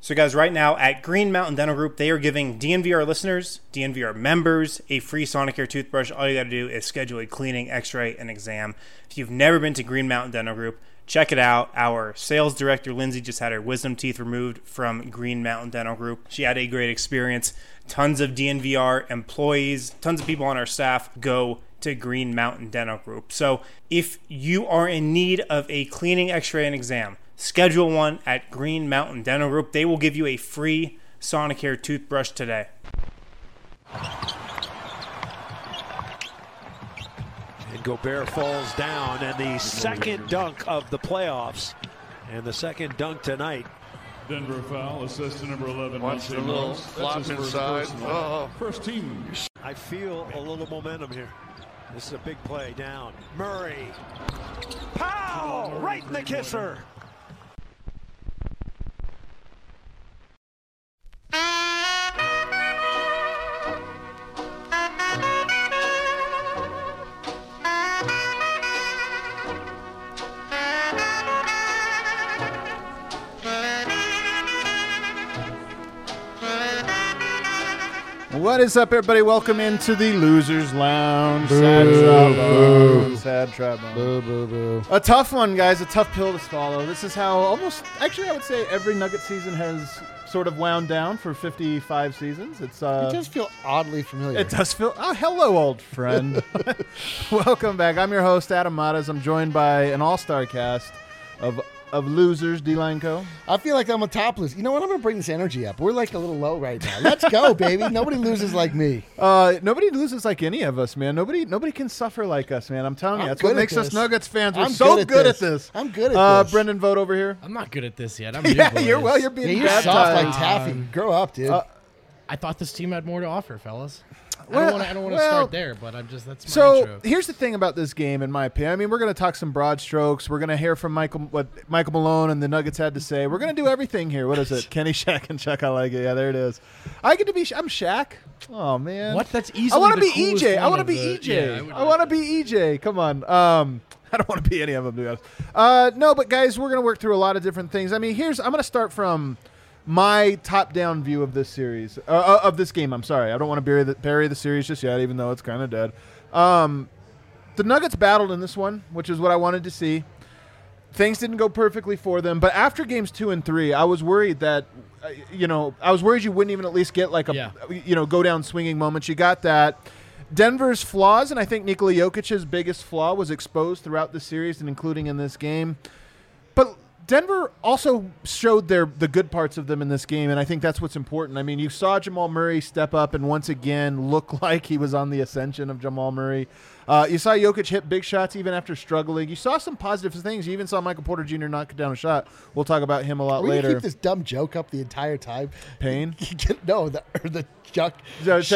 So guys, right now at Green Mountain Dental Group, they are giving DNVR listeners, DNVR members, a free Sonicare toothbrush. All you got to do is schedule a cleaning, x-ray, and exam. If you've never been to Green Mountain Dental Group, check it out. Our sales director, Lindsay, just had her wisdom teeth removed from Green Mountain Dental Group. She had a great experience. Tons of DNVR employees, tons of people on our staff go to Green Mountain Dental Group. So if you are in need of a cleaning, x-ray, and exam, schedule one at Green Mountain Dental Group. They will give you a free Sonicare toothbrush today. And Gobert falls down, and the second dunk of the playoffs, and the second dunk tonight. Denver foul, assistant number 11. Watch the little flop inside. First team. I feel a little momentum here. This is a big play down. Murray. Pow! Right in the kisser. What is up, everybody? Welcome into the Losers Lounge. Sad Trombone. A tough one, guys. A tough pill to swallow. This is how I would say every Nugget season has sort of wound down for 55 seasons. It does feel oddly familiar. It does feel. Oh, hello, old friend. Welcome back. I'm your host, Adam Matas. I'm joined by an all-star cast of losers, D-Line Co. I feel like I'm a topless. You know what? I'm going to bring this energy up. We're like a little low right now. Let's go, baby. Nobody loses like me. Nobody loses like any of us, man. Nobody can suffer like us, man. I'm telling you. That's what makes us Nuggets fans. We're so good at this. I'm good at this. Brendan Vogt over here. I'm not good at this yet. I'm you're being you're baptized. soft like taffy. Grow up, dude. I thought this team had more to offer, fellas. Well, I don't want to start there, but that's my so intro. Here's the thing about this game, in my opinion. I mean, we're going to talk some broad strokes. We're going to hear from what Michael Malone and the Nuggets had to say. We're going to do everything here. What is it? Kenny, Shaq, and Chuck. I like it. Yeah, there it is. I'm Shaq. Oh man. What? That's easily. I want to be coolest EJ. I want to be EJ. I want to be EJ. Come on. I don't want to be any of them, to be honest. No, but guys, we're going to work through a lot of different things. I mean, I'm going to start from my top-down view of this series, of this game. I'm sorry. I don't want to bury the series just yet, even though it's kind of dead. The Nuggets battled in this one, which is what I wanted to see. Things didn't go perfectly for them, but after games 2 and 3, I was worried that, you wouldn't even at least get like go down swinging moments. You got that. Denver's flaws, and I think Nikola Jokic's biggest flaw was exposed throughout the series and including in this game. But Denver also showed the good parts of them in this game, and I think that's what's important. I mean, you saw Jamal Murray step up and once again look like he was on the ascension of Jamal Murray. You saw Jokic hit big shots even after struggling. You saw some positive things. You even saw Michael Porter Jr. knock down a shot. We'll talk about him a lot later. Keep this dumb joke up the entire time. Pain? No, the Chuck. That's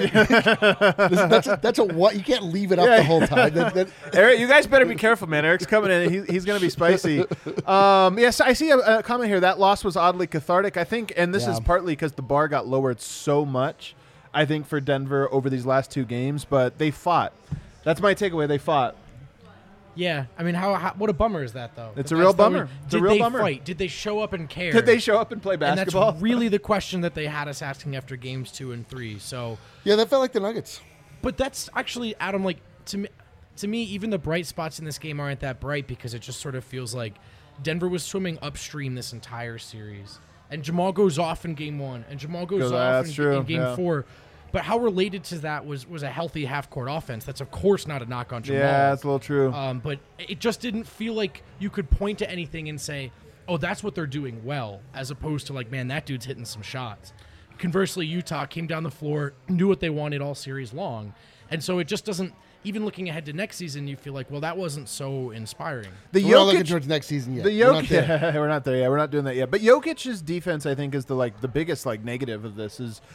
a what? You can't leave it up the whole time. Eric, you guys better be careful, man. Eric's coming in. He's going to be spicy. Yes, I see a comment here. That loss was oddly cathartic, I think, and this is partly because the bar got lowered so much, I think, for Denver over these last 2 games, but they fought. That's my takeaway. They fought. Yeah, I mean, how what a bummer is that, though? It's a real bummer. Did they fight? Did they show up and care? Did they show up and play basketball? And that's really the question that they had us asking after games 2 and 3. So yeah, that felt like the Nuggets. But that's actually, Adam, like to me, even the bright spots in this game aren't that bright because it just sort of feels like Denver was swimming upstream this entire series, and Jamal goes off in game 1, and Jamal goes off in game 4. But how related to that was a healthy half-court offense. That's, of course, not a knock on Jamal. Yeah, that's a little true. But it just didn't feel like you could point to anything and say, oh, that's what they're doing well, as opposed to, like, man, that dude's hitting some shots. Conversely, Utah came down the floor, knew what they wanted all series long. And so it just doesn't – even looking ahead to next season, you feel like, well, that wasn't so inspiring. We're not looking towards next season yet. We're not there yet. We're not doing that yet. But Jokic's defense, I think, is the biggest, negative of this is,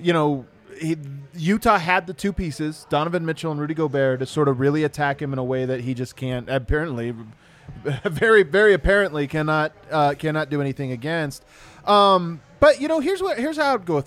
Utah had the 2 pieces, Donovan Mitchell and Rudy Gobert, to sort of really attack him in a way that he just can't, apparently, very, very apparently cannot do anything against. But, here's how I'd go with it.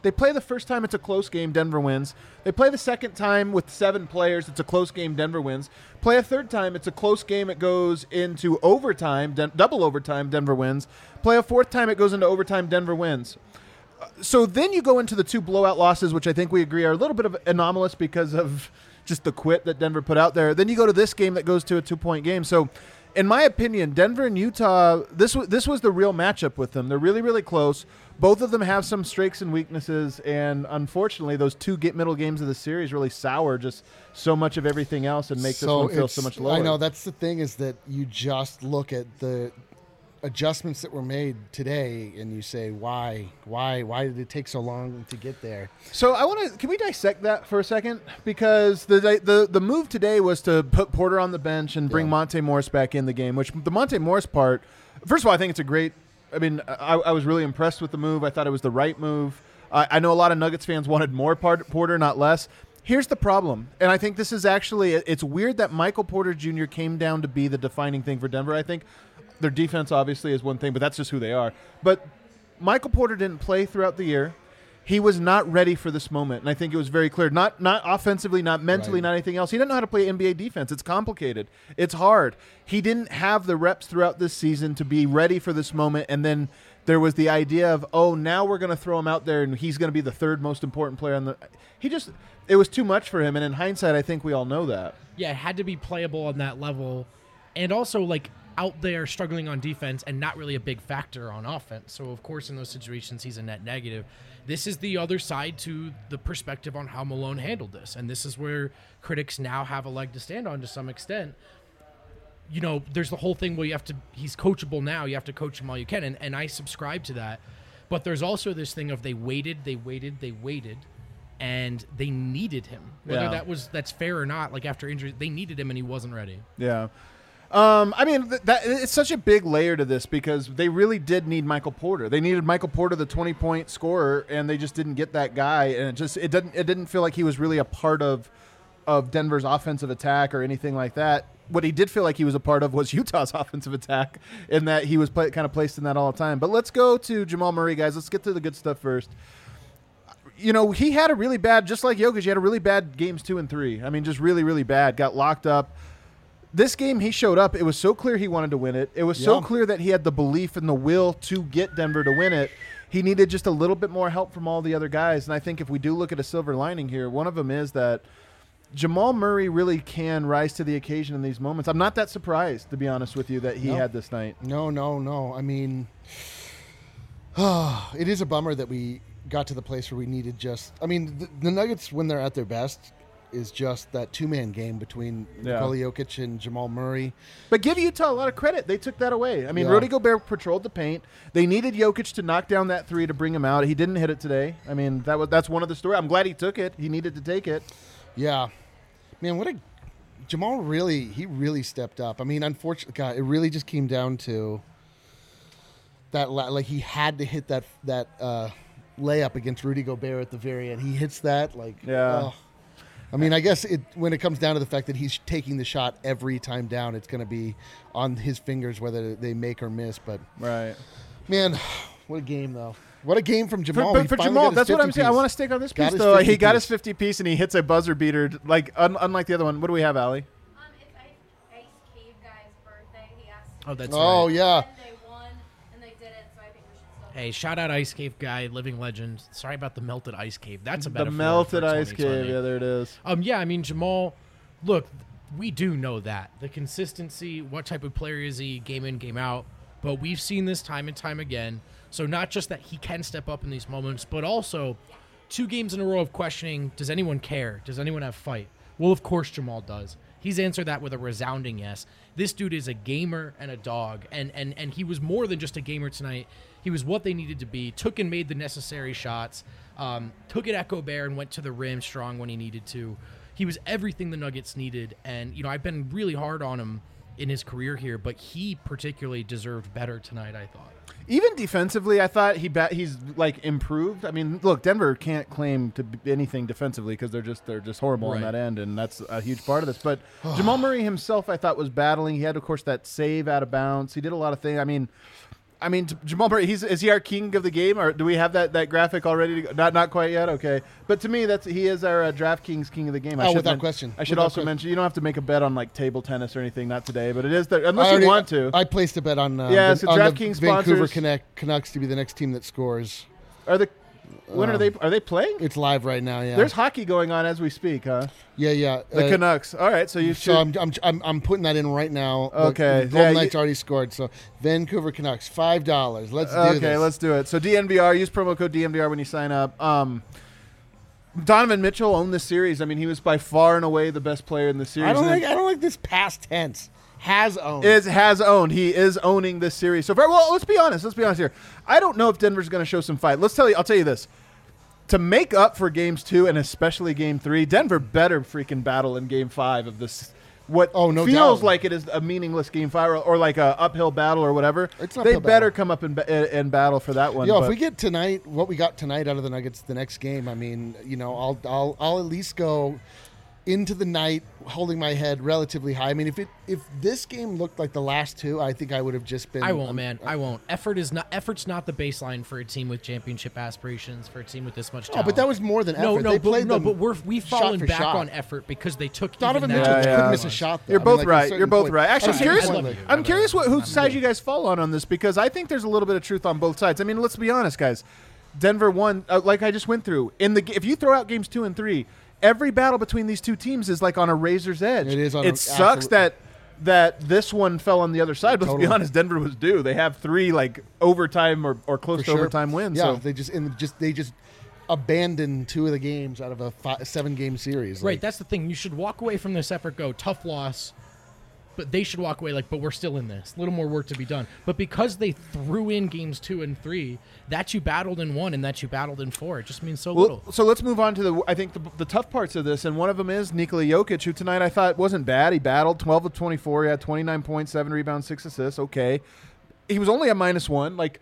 They play the first time, it's a close game, Denver wins. They play the second time with 7 players, it's a close game, Denver wins. Play a third time, it's a close game, it goes into overtime, double overtime, Denver wins. Play a fourth time, it goes into overtime, Denver wins. So then you go into the 2 blowout losses, which I think we agree are a little bit of anomalous because of just the quit that Denver put out there. Then you go to this game that goes to a 2-point game. So in my opinion, Denver and Utah, this was the real matchup with them. They're really, really close. Both of them have some strengths and weaknesses, and unfortunately, those 2 middle games of the series really sour just so much of everything else and make this one feel so much lower. I know, that's the thing, is that you just look at the adjustments that were made today and you say, why did it take so long to get there? So can we dissect that for a second? Because the move today was to put Porter on the bench and bring Monte Morris back in the game, which the Monte Morris part, first of all, I think it's a great, I was really impressed with the move. I thought it was the right move. I know a lot of Nuggets fans wanted more Porter, not less. Here's the problem, and I think this is actually, it's weird that Michael Porter Jr. came down to be the defining thing for Denver. I think their defense obviously is one thing, but that's just who they are. But Michael Porter didn't play throughout the year. He was not ready for this moment, and I think it was very clear. Not offensively, not mentally, not anything else. He didn't know how to play NBA defense. It's complicated. It's hard. He didn't have the reps throughout this season to be ready for this moment, and then there was the idea of, now we're going to throw him out there, and he's going to be the 3rd most important player on the – it was too much for him, and in hindsight, I think we all know that. Yeah, it had to be playable on that level, and also, out there struggling on defense and not really a big factor on offense. So, of course, in those situations, he's a net negative. This is the other side to the perspective on how Malone handled this. And this is where critics now have a leg to stand on to some extent. There's the whole thing where he's coachable now. You have to coach him all you can. And I subscribe to that. But there's also this thing of they waited, and they needed him. Whether that's fair or not, after injury, they needed him and he wasn't ready. Yeah. It's such a big layer to this because they really did need Michael Porter. They needed Michael Porter, the 20-point scorer, and they just didn't get that guy. And it didn't feel like he was really a part of Denver's offensive attack or anything like that. What he did feel like he was a part of was Utah's offensive attack, in that he was kind of placed in that all the time. But let's go to Jamal Murray, guys. Let's get to the good stuff first. He had a really bad, just like Jokic, he had a really bad games 2 and 3. Just really, really bad. Got locked up. This game, he showed up. It was so clear he wanted to win it. It was so clear that he had the belief and the will to get Denver to win it. He needed just a little bit more help from all the other guys. And I think if we do look at a silver lining here, one of them is that Jamal Murray really can rise to the occasion in these moments. I'm not that surprised, to be honest with you, that he had this night. No. It is a bummer that we got to the place where we needed the Nuggets, when they're at their best, is just that 2-man game between Nikola Jokic and Jamal Murray. But give Utah a lot of credit. They took that away. Rudy Gobert patrolled the paint. They needed Jokic to knock down that 3 to bring him out. He didn't hit it today. That's one of the stories. I'm glad he took it. He needed to take it. Yeah. Man, Jamal really stepped up. Unfortunately, God, it really just came down to that. He had to hit that layup against Rudy Gobert at the very end. He hits that. I guess when it comes down to the fact that he's taking the shot every time down, it's going to be on his fingers whether they make or miss. But man, what a game though! What a game from Jamal. But for Jamal, that's what I'm saying. I want to stick on this piece though. He got his 50 piece and he hits a buzzer beater. Unlike the other one. What do we have, Allie? It's Ice Cave Guy's birthday. He asked. Oh, that's right. Yeah. Hey, shout out Ice Cave Guy, living legend. Sorry about the melted ice cave. That's a metaphor. The melted ice cave. Yeah, there it is. Jamal, look, we do know that. The consistency, what type of player is he, game in, game out. But we've seen this time and time again. So not just that he can step up in these moments, but also 2 games in a row of questioning, does anyone care? Does anyone have fight? Well, of course Jamal does. He's answered that with a resounding yes. This dude is a gamer and a dog, and he was more than just a gamer tonight. He was what they needed to be, took and made the necessary shots, took it at Gobert and went to the rim strong when he needed to. He was everything the Nuggets needed, and I've been really hard on him in his career here, but he particularly deserved better tonight, I thought. Even defensively, I thought he's improved. Look, Denver can't claim to be anything defensively because they're just horrible on that end, and that's a huge part of this. But Jamal Murray himself, I thought, was battling. He had, of course, that save out of bounds. He did a lot of things. I mean, Jamal Murray, is he our king of the game, or do we have that graphic already? To go? Not quite yet. Okay, but to me, he is our DraftKings king of the game. Without question. I should also mention you don't have to make a bet on like table tennis or anything. Not today, but it is unless you want to. I placed a bet on so on DraftKings the Vancouver sponsors. Canucks to be the next team that scores. When are they playing? It's live right now. Yeah, There's hockey going on as we speak, huh? Yeah. The Canucks. All right, so you. So I'm putting that in right now. Okay. The Golden Knights already scored. So Vancouver Canucks, $5. Let's do this. Okay, let's do it. So DNVR, use promo code DNVR when you sign up. Donovan Mitchell owned this series. I mean, he was by far and away the best player in the series. I don't like this past tense. Has owned. Has owned. He is owning this series so far. Well, let's be honest here. I don't know if Denver's going to show some fight. I'll tell you this. To make up for games 2 and especially game 3, Denver better freaking battle in game 5 of this. No feels doubt. like it is a meaningless game 5 or like a uphill battle or whatever. It's an they uphill better battle. come up and battle for that one. If we get tonight, what we got tonight out of the Nuggets, the next game, I mean, I'll at least go into the night holding my head relatively high. I mean, if this game looked like the last 2, I think I would have just been. I won't, man. I won't. Effort's not the baseline for a team with championship aspirations, for a team with this much talent. Oh, but that was more than effort. We've fallen back on effort because they took Donovan even Mitchell that. couldn't miss a shot. Though. You're both at a right. certain You're both point. right. Actually, I'm curious whose side you guys fall on this because I think there's a little bit of truth on both sides. I mean, let's be honest, guys. Denver won, like I just went through. If you throw out games 2 and 3, every battle between these two teams is like on a razor's edge. It is. It sucks that this one fell on the other side. But let's be honest, Denver was due. They have 3 like overtime or close to overtime wins. Yeah, so. they just abandoned 2 of the games out of a 7-game series. Right, that's the thing. You should walk away from this effort. Go tough loss. But they should walk away but we're still in this. A little more work to be done. But because they threw in games 2 and 3, that you battled in 1 and that you battled in 4, it just means so little. So let's move on to the tough parts of this, and one of them is Nikola Jokic, who tonight I thought wasn't bad. He battled 12 of 24. He had 29 points, 7 rebounds, 6 assists. Okay, he was only a -1. Like,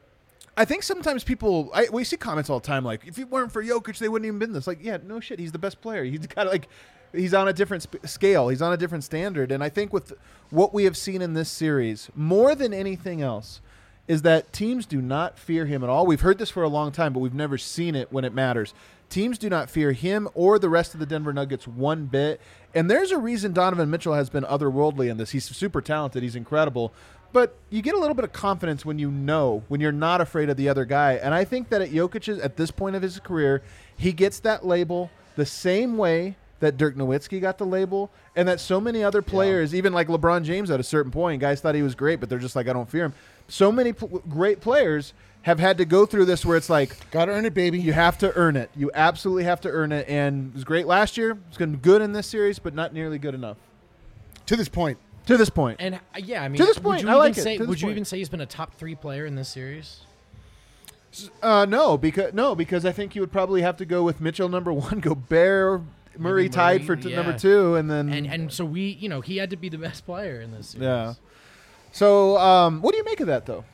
I think sometimes we see comments all the time like, if it weren't for Jokic, they wouldn't even been this. Like, yeah, no shit. He's the best player. He's got he's on a different scale. He's on a different standard. And I think with what we have seen in this series, more than anything else, is that teams do not fear him at all. We've heard this for a long time, but we've never seen it when it matters. Teams do not fear him or the rest of the Denver Nuggets one bit. And there's a reason Donovan Mitchell has been otherworldly in this. He's super talented. He's incredible. But you get a little bit of confidence when you're not afraid of the other guy. And I think that at this point of his career, he gets that label the same way that Dirk Nowitzki got the label, and that so many other players, even like LeBron James at a certain point, guys thought he was great, but they're just like, I don't fear him. So many great players have had to go through this where it's like, gotta earn it, baby. You have to earn it. You absolutely have to earn it. And it was great last year. It's been good in this series, but not nearly good enough. To this point. And yeah, I mean, to this point, I like it. Would you even say he's been a top 3 player in this series? No, because I think you would probably have to go with Mitchell number 1, Gobert, Murray tied for number 2, and then and so he had to be the best player in this series. Yeah. So what do you make of that though?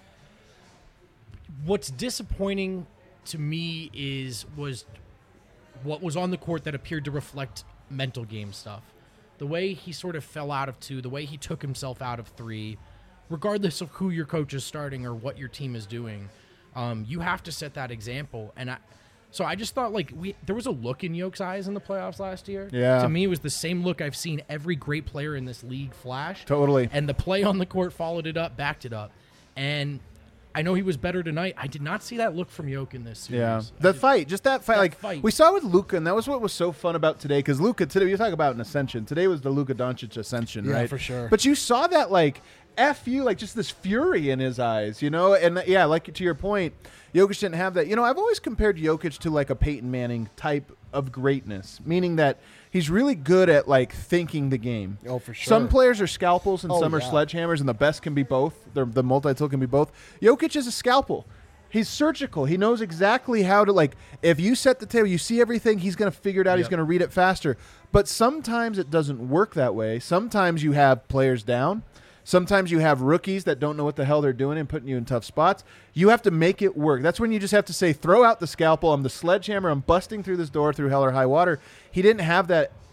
What's disappointing to me was what was on the court that appeared to reflect mental game stuff. The way he sort of fell out of 2, the way he took himself out of 3, regardless of who your coach is starting or what your team is doing, you have to set that example. And I just thought there was a look in Yoke's eyes in the playoffs last year. Yeah. To me, it was the same look I've seen every great player in this league flash. Totally. And the play on the court followed it up, backed it up. And I know he was better tonight. I did not see that look from Yoke in this series. Yeah, that fight. We saw with Luka, and that was what was so fun about today. Because Luka today, you talk about an ascension. Today was the Luka Doncic ascension, right? Yeah, for sure. But you saw that F you, just this fury in his eyes, And yeah, to your point, Jokic didn't have that. I've always compared Jokic to a Peyton Manning type of greatness, meaning that he's really good at thinking the game. Oh, for sure. Some players are scalpels and some are sledgehammers, and the best can be both. The multi-tool can be both. Jokic is a scalpel. He's surgical. He knows exactly how to if you set the table, you see everything, he's going to figure it out. Yep. He's going to read it faster. But sometimes it doesn't work that way. Sometimes you have players down. Sometimes you have rookies that don't know what the hell they're doing and putting you in tough spots. You have to make it work. That's when you just have to say, throw out the scalpel. I'm the sledgehammer. I'm busting through this door through hell or high water. He didn't have that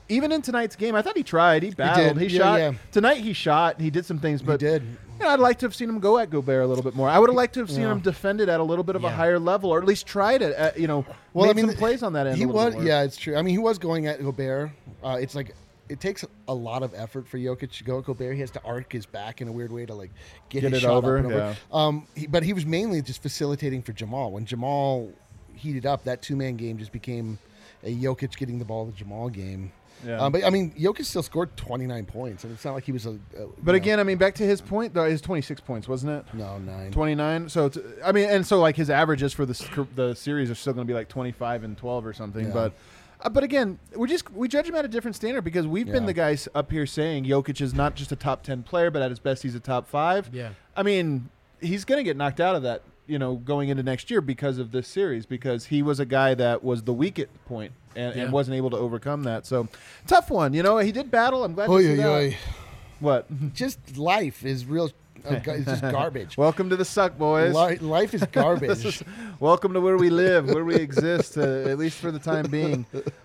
even in tonight's game, I thought he tried. He battled. He Yeah, shot. yeah. Tonight he shot. He did some things, but He did. I'd like to have seen him go at Gobert a little bit more. I would have liked to have seen Yeah. him defend it at a little bit of a Yeah. higher level, or at least tried it. Make some plays on that end. He a little was, bit more. yeah, it's true. I mean, he was going at Gobert. It's like it takes a lot of effort for Jokic to go at Gobert. He has to arc his back in a weird way to like get his it shot over, up and over. yeah. But he was mainly just facilitating for Jamal. When Jamal heated up, that 2-man game just became a Jokic getting the ball to Jamal game. Yeah. But I mean, Jokic still scored 29 points, and it's not like he was But again, I mean, back to his point, though, his 26 points, wasn't it? no 9. 29. So like his averages for the series are still going to be like 25 and 12 or something. Yeah. But again, we judge him at a different standard because we've been Yeah. the guys up here saying Jokic is not just a top 10 player, but at his best he's a top 5. Yeah. I mean, he's going to get knocked out of that, going into next year because of this series, because he was a guy that was the weak point and wasn't able to overcome that. So tough one. He did battle. I'm glad to see that. What? Just life is real. It's just garbage. Welcome to the suck, boys. Life is garbage. Welcome to where we live, where we exist, at least for the time being.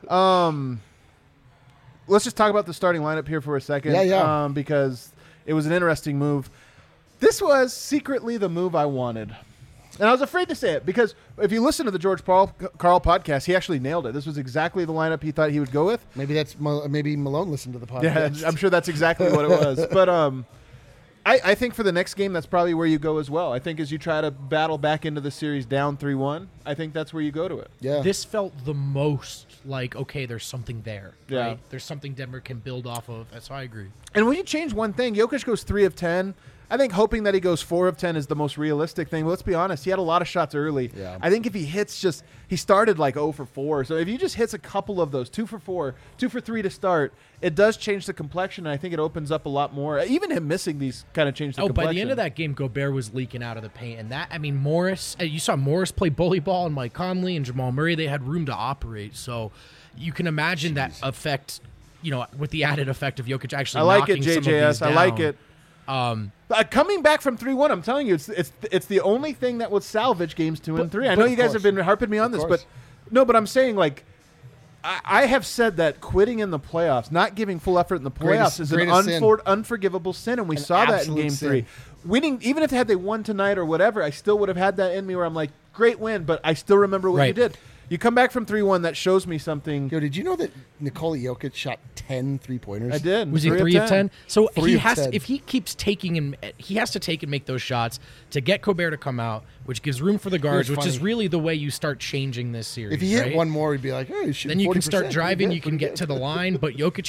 Let's just talk about the starting lineup here for a second. Yeah. Because it was an interesting move. This was secretly the move I wanted. And I was afraid to say it because if you listen to the George Carl podcast, he actually nailed it. This was exactly the lineup he thought he would go with. Maybe Malone listened to the podcast. Yeah, I'm sure that's exactly what it was. But I think for the next game, that's probably where you go as well. I think as you try to battle back into the series down 3-1, I think that's where you go to it. Yeah. This felt the most like, okay, there's something there. Yeah. Right? There's something Denver can build off of. So I agree. And when you change one thing, Jokic goes 3 of 10. I think hoping that he goes 4 of 10 is the most realistic thing. But let's be honest, he had a lot of shots early. Yeah. I think if he hits he started like 0 for 4. So if he just hits a couple of those, 2 for 4, 2 for 3 to start, it does change the complexion. And I think it opens up a lot more. Even him missing these kind of changed the complexion. By the end of that game, Gobert was leaking out of the paint. And Morris, you saw Morris play bully ball, and Mike Conley and Jamal Murray, they had room to operate. So you can imagine that effect, with the added effect of Jokic actually I like it, knocking some of these JJS. I like down. it. Coming back from 3-1, I'm telling you, it's the only thing that would salvage games 2 and 3. I know you guys have been harping me on this, but I'm saying like I have said that quitting in the playoffs, not giving full effort in the playoffs, is an unforgivable sin, and we saw that in Game 3. Winning, even if they won tonight or whatever, I still would have had that in me where I'm like, great win, but I still remember what you did. You come back from 3-1, that shows me something. Yo, did you know that Nikola Jokic shot 10 3-pointers? I did. Was he 3 of 10? So if he keeps taking and he has to take and make those shots to get Gobert to come out, which gives room for the guards, which is really the way you start changing this series. If he hit one more, he'd be like, hey, then you can start driving, you can get to the line, but Jokic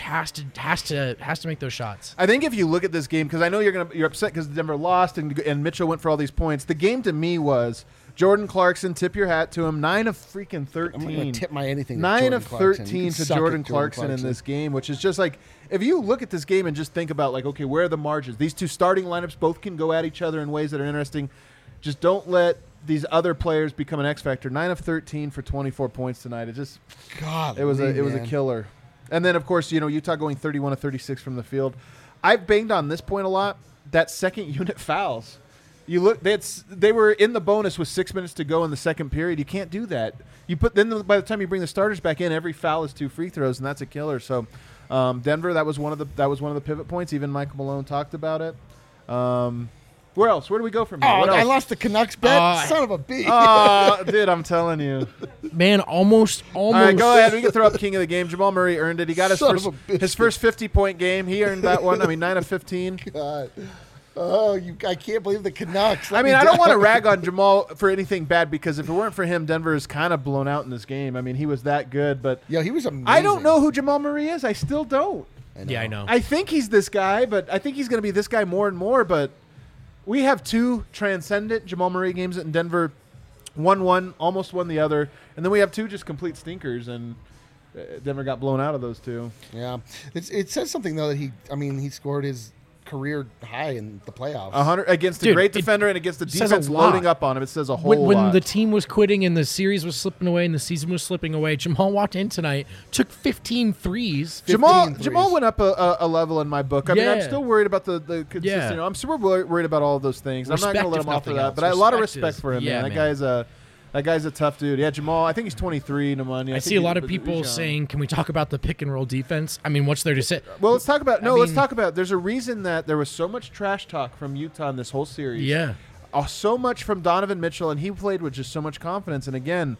has to make those shots. I think if you look at this game, because I know you're upset because Denver lost and Mitchell went for all these points. The game to me was Jordan Clarkson, tip your hat to him. 9 of freaking 13. I'm going to tip my anything. 9 of 13 to Jordan Clarkson in this game, which is just like, if you look at this game and just think about like, okay, where are the margins? These two starting lineups both can go at each other in ways that are interesting. Just don't let these other players become an X factor. 9 of 13 for 24 points tonight. It just, it was a killer. And then of course, Utah going 31 of 36 from the field. I've banged on this point a lot. That second unit fouls. You look, they were in the bonus with 6 minutes to go in the second period. You can't do that. By the time you bring the starters back in, every foul is 2 free throws, and that's a killer. So, Denver, that was one of the pivot points. Even Michael Malone talked about it. Where else? Where do we go from here? I lost the Canucks bet. Son of a bitch. Oh, dude, I'm telling you. Man, almost. All right, go ahead. We can throw up king of the game. Jamal Murray earned it. He got his first 50-point game. He earned that one. 9 of 15. God. Oh, I can't believe the Canucks. I don't want to rag on Jamal for anything bad because if it weren't for him, Denver is kind of blown out in this game. He was that good, but he was amazing. I don't know who Jamal Murray is. I still don't. I know. I think he's this guy, but I think he's going to be this guy more and more. But we have 2 transcendent Jamal Murray games in Denver. Won, almost won the other, and then we have 2 just complete stinkers, and Denver got blown out of those 2. Yeah, it says something though that he scored his career high in the playoffs. 100 against a great defender and against the defense loading up on him. It says a whole lot. When the team was quitting and the series was slipping away and the season was slipping away, Jamal walked in tonight, took 15 threes. Jamal went up a level in my book. I'm still worried about the consistency. I'm super worried about all of those things. I'm not going to let him off for that. But I have a lot of respect for him, man. That That guy's a tough dude. Yeah, Jamal. I think he's 23. Nemanja. I see a lot of people saying, "Can we talk about the pick and roll defense?" I mean, what's there to say? Well, let's talk about. Let's talk about. There's a reason that there was so much trash talk from Utah in this whole series. Yeah, so much from Donovan Mitchell, and he played with just so much confidence. And again,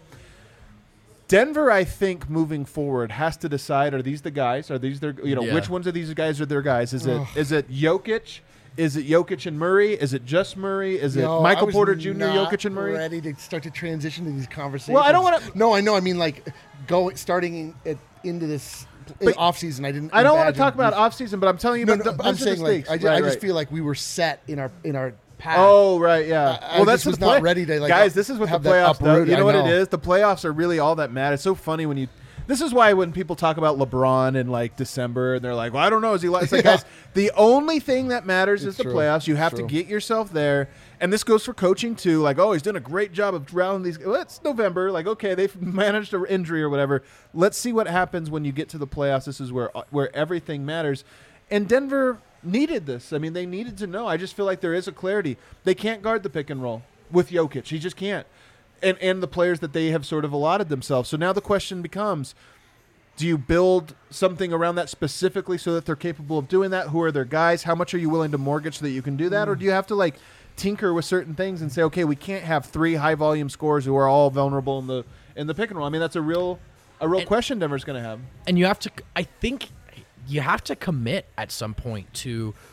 Denver, I think, moving forward, has to decide: are these the guys? Are these their? Which ones of these guys are their guys? Is it Jokic? Is it Jokic and Murray? Is it just Murray? Is it Michael Porter Jr., Jokic and Murray? Ready to start to transition to these conversations. Well, I don't want to. No, I know. I mean, like starting into this offseason. I don't want to talk about offseason, but I'm telling you. I'm saying like I just feel like we were set in our path. Oh right, yeah. That's was not ready to guys. This is what the playoffs do. You know what it is? The playoffs are really all that matters. It's so funny when you. This is why when people talk about LeBron in like December and they're like, well, I don't know. Is he like, it's like guys, the only thing that matters is the playoffs. You have to get yourself there. And this goes for coaching too. Like, oh, he's doing a great job of rounding these. Well, it's November. Like, okay, they've managed an injury or whatever. Let's see what happens when you get to the playoffs. This is where everything matters. And Denver needed this. I mean, they needed to know. I just feel like there is a clarity. They can't guard the pick and roll with Jokic. He just can't. And the players that they have sort of allotted themselves. So now the question becomes, do you build something around that specifically so that they're capable of doing that? Who are their guys? How much are you willing to mortgage so that you can do that? Or do you have to like tinker with certain things and say, okay, we can't have 3 high-volume scorers who are all vulnerable in the pick and roll? I mean, that's a real question Denver's going to have. And you have to – I think you have to commit at some point to –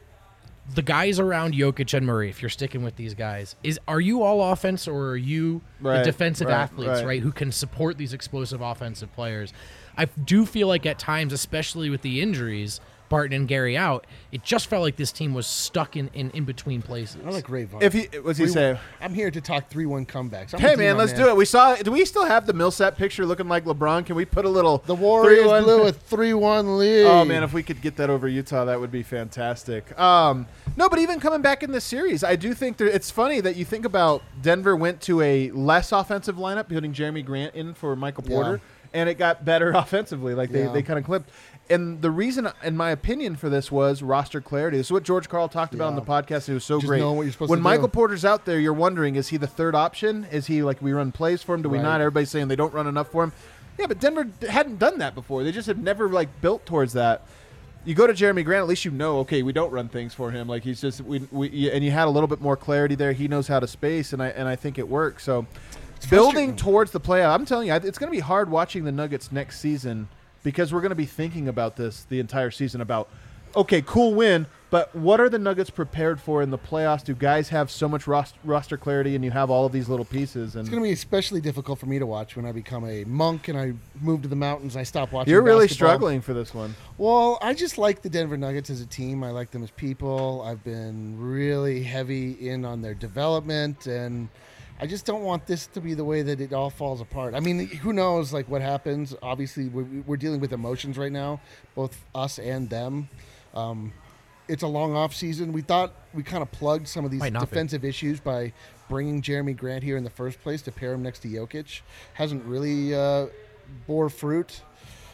the guys around Jokic and Murray, if you're sticking with these guys, are you all offense or are you the defensive athletes, right, who can support these explosive offensive players? I do feel like at times, especially with the injuries, Barton and Gary out, it just felt like this team was stuck in between places. I like Ray Vaughn. What's he say? I'm here to talk 3-1 comebacks. Hey, man, let's do it. Do we still have the Millsap picture looking like LeBron? Can we put a little The Warriors blew a 3-1 lead. Oh, man, if we could get that over Utah, that would be fantastic. No, but even coming back in this series, I do think it's funny that you think about Denver went to a less offensive lineup, putting Jeremy Grant in for Michael Porter, and it got better offensively. Like they kind of clipped. And the reason, in my opinion, for this was roster clarity. This is what George Karl talked about on the podcast. It was so great. Know what you're supposed when to Michael do. Porter's out there, you're wondering, is he the third option? Is he like we run plays for him? Do we not? Everybody's saying they don't run enough for him. Yeah, but Denver hadn't done that before. They just have never like built towards that. You go to Jeremy Grant, at least you know, okay, we don't run things for him. Like he's just and you had a little bit more clarity there. He knows how to space, and I think it works. So building towards the playoff, I'm telling you, it's going to be hard watching the Nuggets next season because we're going to be thinking about this the entire season about, okay, cool win, but what are the Nuggets prepared for in the playoffs? Do guys have so much roster clarity and you have all of these little pieces? And it's going to be especially difficult for me to watch when I become a monk and I move to the mountains and I stop watching You're really basketball. struggling for this one. Well, I just like the Denver Nuggets as a team. I like them as people. I've been really heavy in on their development, and I just don't want this to be the way that it all falls apart. I mean, who knows, like, what happens? Obviously, we're dealing with emotions right now, both us and them. It's a long off season. We thought we kind of plugged some of these defensive issues by bringing Jeremy Grant here in the first place to pair him next to Jokic. Hasn't really bore fruit.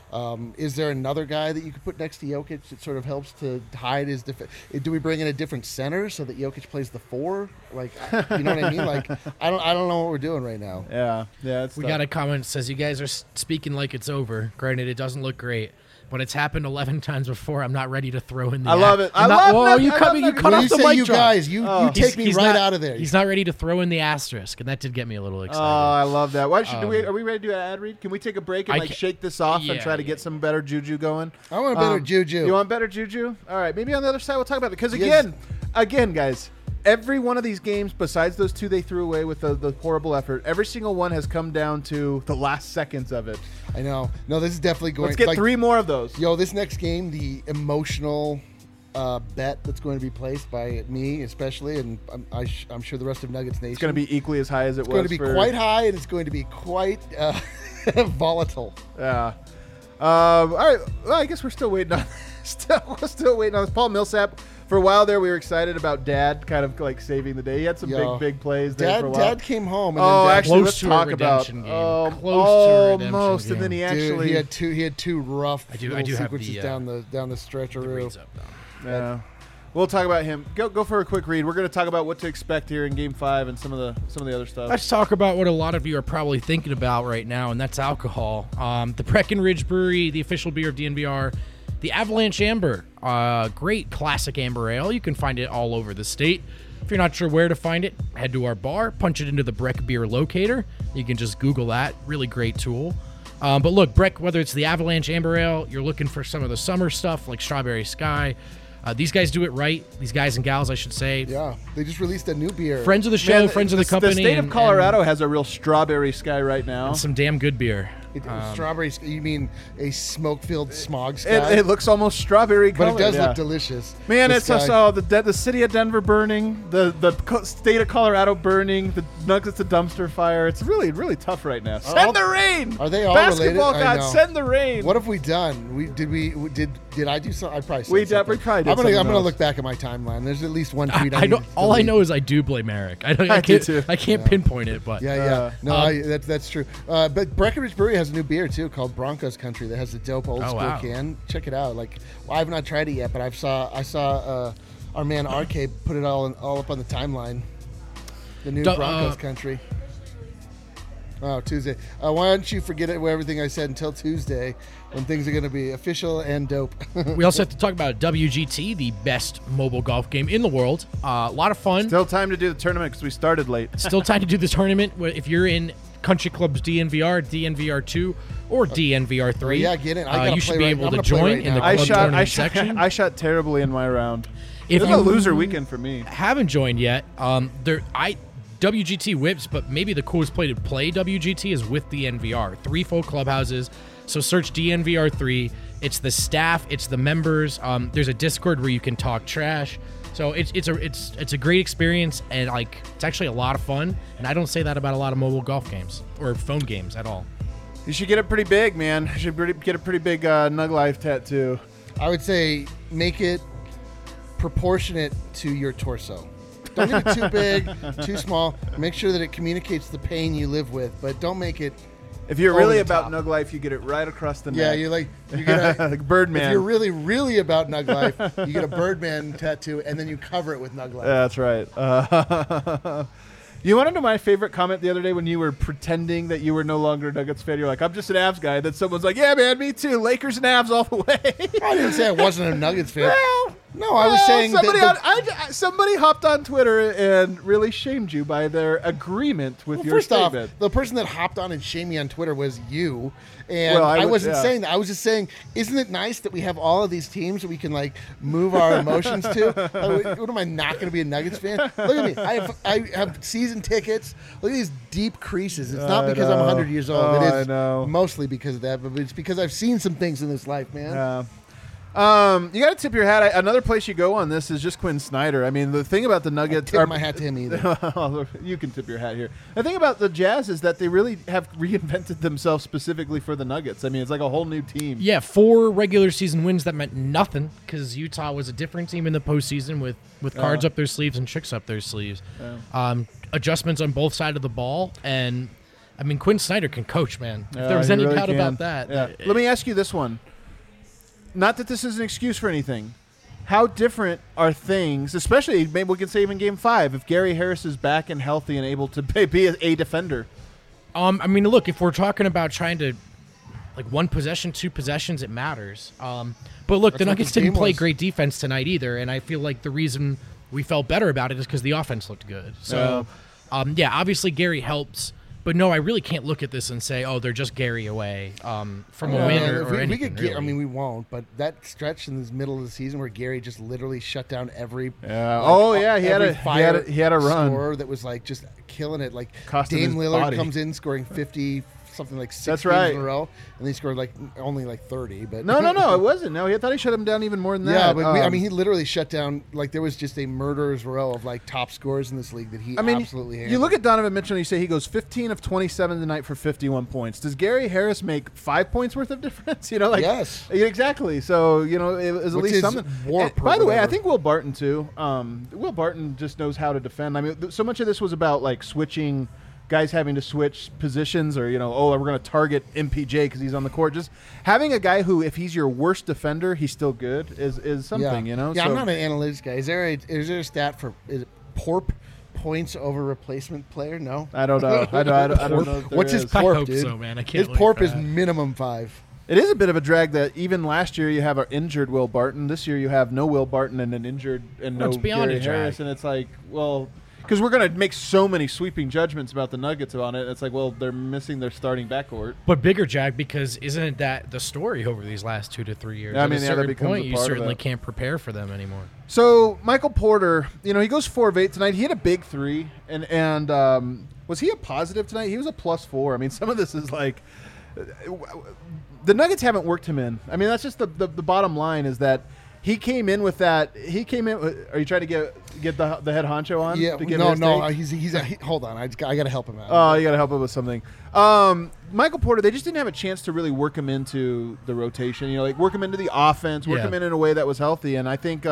Is there another guy that you could put next to Jokic that sort of helps to hide his defense? Do we bring in a different center so that Jokic plays the 4? Like, you know what I mean? Like, I don't know what we're doing right now. Yeah. We got a comment that says you guys are speaking like it's over. Granted, it doesn't look great, but it's happened 11 times before. I'm not ready to throw in the. I love it. You cut off the mic drop. Guys, you take me right out of there. He's not ready to throw in the asterisk, and that did get me a little excited. Oh, I love that. Why should are we ready to do an ad read? Can we take a break and shake this off and try to get some better juju going? I want better juju. You want better juju? All right, maybe on the other side we'll talk about it because again, guys. Every one of these games, besides those 2 they threw away with the horrible effort, every single one has come down to the last seconds of it. I know. No, this is definitely going. Let's get 3 more of those. Yo, this next game, the emotional bet that's going to be placed by me especially, and I'm sure the rest of Nuggets Nation. It's going to be equally as high as it was. It's going to be quite high, and it's going to be quite volatile. Yeah. All right. Well, I guess we're still waiting on. Still waiting on this. Paul Millsap. For a while there, we were excited about Dad kind of like saving the day. He had some big plays there for a while. Dad came home. And then actually, let's talk about almost. And then he actually he had two rough I do have sequences down the stretcherer. Yeah. We'll talk about him. Go for a quick read. We're going to talk about what to expect here in Game 5 and some of the other stuff. Let's talk about what a lot of you are probably thinking about right now, and that's alcohol. The Breckenridge Brewery, the official beer of DNVR, the Avalanche Amber, great classic amber ale. You can find it all over the state. If you're not sure where to find it, head to our bar, punch it into the Breck Beer Locator. You can just Google that. Really great tool. But look, Breck, whether it's the Avalanche Amber Ale, you're looking for some of the summer stuff like Strawberry Sky. These guys do it right. These guys and gals, I should say. Yeah, they just released a new beer. Friends of the show, friends of the company. The state of Colorado has a real Strawberry Sky right now. And some damn good beer. Strawberry, you mean a smoke-filled smog sky? It looks almost strawberry colored. But it does look delicious. Man, it's also the city of Denver burning, the state of Colorado burning, the Nuggets of dumpster fire. It's really, really tough right now. Send the rain! Are they all Basketball related? gods, send the rain! What have we done? Did I do something? I probably said we something. probably did. I'm gonna look back at my timeline. There's at least one tweet. All I know is I do blame Eric. I can't pinpoint it, but that's true. But Breckenridge Brewery has a new beer too called Broncos Country that has a dope old school can. Check it out. I've not tried it yet, but I saw our man RK put it all up on the timeline. The new Broncos Country. Oh, Tuesday. Why don't you forget everything I said until Tuesday when things are going to be official and dope. We also have to talk about WGT, the best mobile golf game in the world. A lot of fun. Still time to do the tournament because we started late. Still time to do the tournament. If you're in Country Club's DNVR, DNVR2, or DNVR3, get in. You should be able to join in the club tournament section. I shot terribly in my round. It was a loser weekend for me. Haven't joined yet. WGT whips, but maybe the coolest play to play WGT is with DNVR. 3 full clubhouses. So search DNVR3. It's the staff. It's the members. There's a Discord where you can talk trash. So it's a great experience, and it's actually a lot of fun. And I don't say that about a lot of mobile golf games or phone games at all. You should get it pretty big, man. You should get a pretty big Nug Life tattoo. I would say make it proportionate to your torso. Don't make it too big, too small. Make sure that it communicates the pain you live with, but don't make it. If you're really about Nug Life, you get it right across the neck. Yeah, you get like Birdman. If you're really, really about Nug Life, you get a Birdman tattoo, and then you cover it with Nug Life. Yeah, that's right. You want to know my favorite comment the other day when you were pretending that you were no longer a Nuggets fan? You're like, I'm just an Avs guy. Then someone's like, yeah, man, me too. Lakers and Avs all the way. I didn't say I wasn't a Nuggets fan. No, I was saying somebody hopped on Twitter and really shamed you by their agreement with your statement. First off, the person that hopped on and shamed me on Twitter was you. And I wasn't saying that. I was just saying, isn't it nice that we have all of these teams that we can move our emotions to? What am I not going to be a Nuggets fan? Look at me. I have season tickets. Look at these deep creases. It's not because I'm 100 years old. It is mostly because of that, but it's because I've seen some things in this life, man. Yeah. You got to tip your hat. Another place you go on this is just Quinn Snyder. I mean, the thing about the Nuggets... I tip my hat to him either. You can tip your hat here. The thing about the Jazz is that they really have reinvented themselves specifically for the Nuggets. I mean, it's like a whole new team. Yeah, 4 regular season wins that meant nothing because Utah was a different team in the postseason with cards up their sleeves and tricks up their sleeves. Yeah. Adjustments on both sides of the ball, and I mean, Quinn Snyder can coach, man. If there was any doubt about that. Yeah. Let me ask you this one. Not that this is an excuse for anything. How different are things, especially maybe we can say even Game 5, if Gary Harris is back and healthy and able to be a defender? I mean, look, if we're talking about trying to, 1 possession, 2 possessions, it matters. But look, the Nuggets didn't play great defense tonight either, and I feel like the reason we felt better about it is because the offense looked good. So, obviously Gary helps. But no, I really can't look at this and say, "Oh, they're just Gary away from a win or anything." Really. I mean, we won't. But that stretch in the middle of the season where Gary just literally shut down every. He had a run scorer that was just killing it. Costing Dame Lillard body. Comes in scoring 50. Something like 6 games in a row, and they scored only 30. But no, it wasn't. No, I thought he shut him down even more than that. Yeah, but he literally shut down. There was just a murderer's row of top scorers in this league that he absolutely handled. You look at Donovan Mitchell and you say he goes 15 of 27 tonight for 51 points. Does Gary Harris make 5 points worth of difference? Yes, exactly. So it was at least something. By the way, I think Will Barton too. Will Barton just knows how to defend. I mean, so much of this was about switching guys having to switch positions or, we're going to target MPJ because he's on the court. Just having a guy who, if he's your worst defender, he's still good is something, Yeah, So, I'm not an analytics guy. Is there a stat for PORP, points over replacement player? No. I don't know. I don't know. If there What's his is. I PORP, hope dude? so, man. I can't His wait PORP for is that. minimum 5. It is a bit of a drag that even last year you have an injured Will Barton. This year you have no Will Barton and an injured and Well, no it's beyond Gary a drag. Harris. And it's like, well, because we're going to make so many sweeping judgments about the Nuggets on it. It's like, well, they're missing their starting backcourt. But bigger jag because isn't that the story over these last 2 to 3 years? Yeah, I At mean, a that certain becomes point, a you part of certainly it. can't prepare for them anymore. So Michael Porter, he goes 4 of 8 tonight. He hit a big 3, and was he a positive tonight? He was a +4. I mean, some of this is like the Nuggets haven't worked him in. I mean, that's just the bottom line is that he came in with that. He came in. Are you trying to get the head honcho on? Yeah, to give no, his no. take? Hold on. I got to help him out. Oh, you got to help him with something. Michael Porter, they just didn't have a chance to really work him into the rotation. Like work him into the offense, work Yeah. him in a way that was healthy. And I think,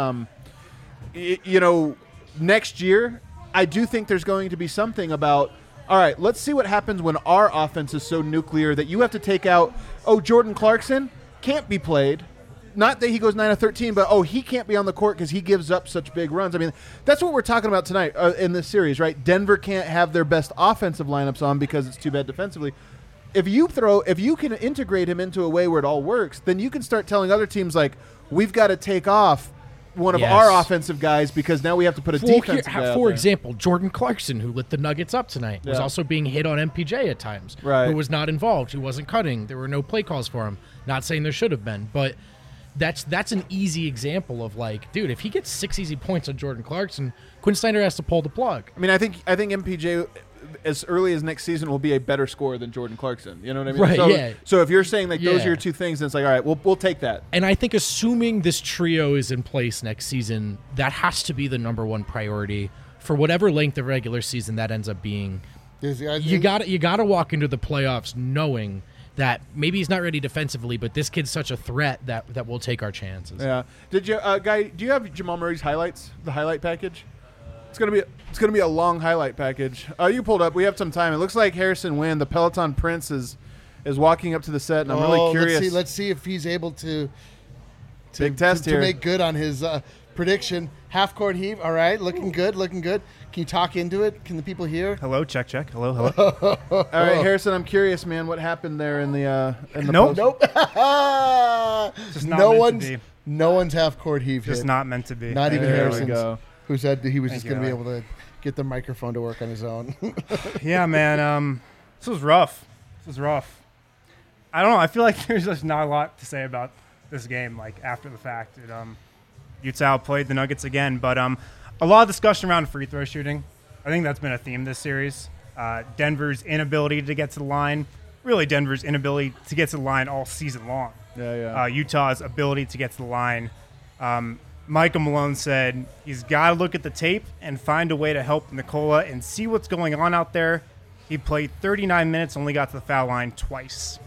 next year, I do think there's going to be something about. All right, let's see what happens when our offense is so nuclear that you have to take out. Oh, Jordan Clarkson can't be played. Not that he goes 9 of 13, but he can't be on the court because he gives up such big runs. I mean, that's what we're talking about tonight in this series, right? Denver can't have their best offensive lineups on because it's too bad defensively. If you can integrate him into a way where it all works, then you can start telling other teams like, we've got to take off one of Yes. our offensive guys because now we have to put a defensive guy out For there. example, Jordan Clarkson, who lit the Nuggets up tonight, was Yeah. also being hit on MPJ at times. Right. Who was not involved. Who wasn't cutting. There were no play calls for him. Not saying there should have been, but that's an easy example of like, dude, if he gets 6 easy points on Jordan Clarkson, Quinn Snyder has to pull the plug. I mean, I think MPJ as early as next season will be a better scorer than Jordan Clarkson. You know what I mean? Right, So, yeah. So if you're saying like those Yeah. are your two things, then it's like, all right, we'll take that. And I think assuming this trio is in place next season, that has to be the number one priority for whatever length of regular season that ends up being. You got to walk into the playoffs knowing that maybe he's not ready defensively, but this kid's such a threat that we'll take our chances. Yeah. Did you, Guy? Do you have Jamal Murray's highlights? The highlight package? It's gonna be a long highlight package. You pulled up. We have some time. It looks like Harrison Wind, the Peloton Prince, is walking up to the set, and I'm really curious. Let's see if he's able to Big test to here. make good on his prediction. Half court heave. All right, looking good. Can you talk into it? Can the people hear? Hello, check. Hello. All right, Harrison. I'm curious, man. What happened there in the Nope. post? Nope. Just not meant to be. No one's half court heave Just hit. not meant to be. Not even There we Harrison's. go. Who said that he was Thank just going to you, be able to get the microphone to work on his own. Yeah, man. This was rough. I don't know. I feel like there's just not a lot to say about this game, like after the fact. Utah outplayed the Nuggets again, but a lot of discussion around free throw shooting. I think that's been a theme this series. Denver's inability to get to the line. Really, Denver's inability to get to the line all season long. Yeah. Utah's ability to get to the line. Michael Malone said he's got to look at the tape and find a way to help Nikola and see what's going on out there. He played 39 minutes, only got to the foul line twice.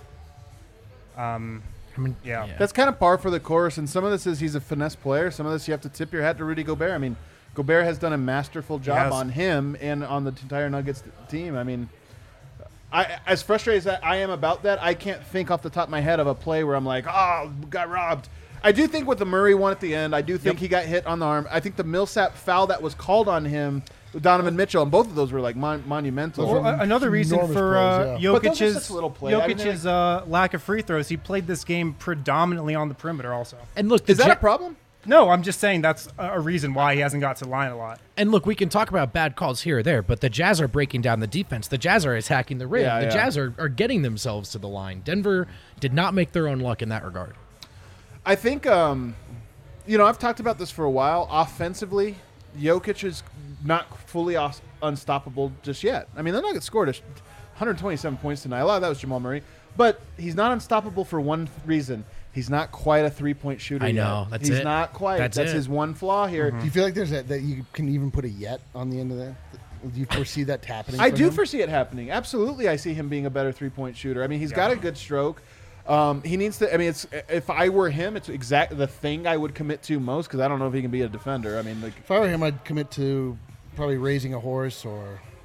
Yeah. That's kind of par for the course, and some of this is he's a finesse player. Some of this you have to tip your hat to Rudy Gobert. I mean, Gobert has done a masterful job has. on him and on the entire Nuggets team. I mean, as frustrated as I am about that, I can't think off the top of my head of a play where I'm like, oh, got robbed. I do think with the Murray one at the end, I do think he got hit on the arm. I think the Millsap foul that was called on him, Donovan Mitchell, and both of those were like monumental. Well, another reason enormous for plays, yeah. But those are such Jokic's, little plays. I mean, Jokic's lack of free throws, he played this game predominantly on the perimeter also. And look, Is that a problem? No, I'm just saying that's a reason why he hasn't got to the line a lot. And look, we can talk about bad calls here or there, but the Jazz are breaking down the defense. The Jazz are attacking the rim. Yeah, the yeah. Jazz are getting themselves to the line. Denver did not make their own luck in that regard. I think, I've talked about this for a while. Offensively, Jokic is not fully unstoppable just yet. I mean, the Nuggets scored 127 points tonight. A lot of that was Jamal Murray. But he's not unstoppable for one reason. He's not quite a three-point shooter I know. yet. That's He's it. not quite. That's That's it. his one flaw here. Do you feel like there's that you can even put a yet on the end of that? Do you foresee that happening? I for do him? foresee it happening. Absolutely, I see him being a better three-point shooter. I mean, he's got a good stroke. He needs to. I mean, if I were him, it's exactly the thing I would commit to most because I don't know if he can be a defender. I mean, like If I were him, I'd commit to probably raising a horse or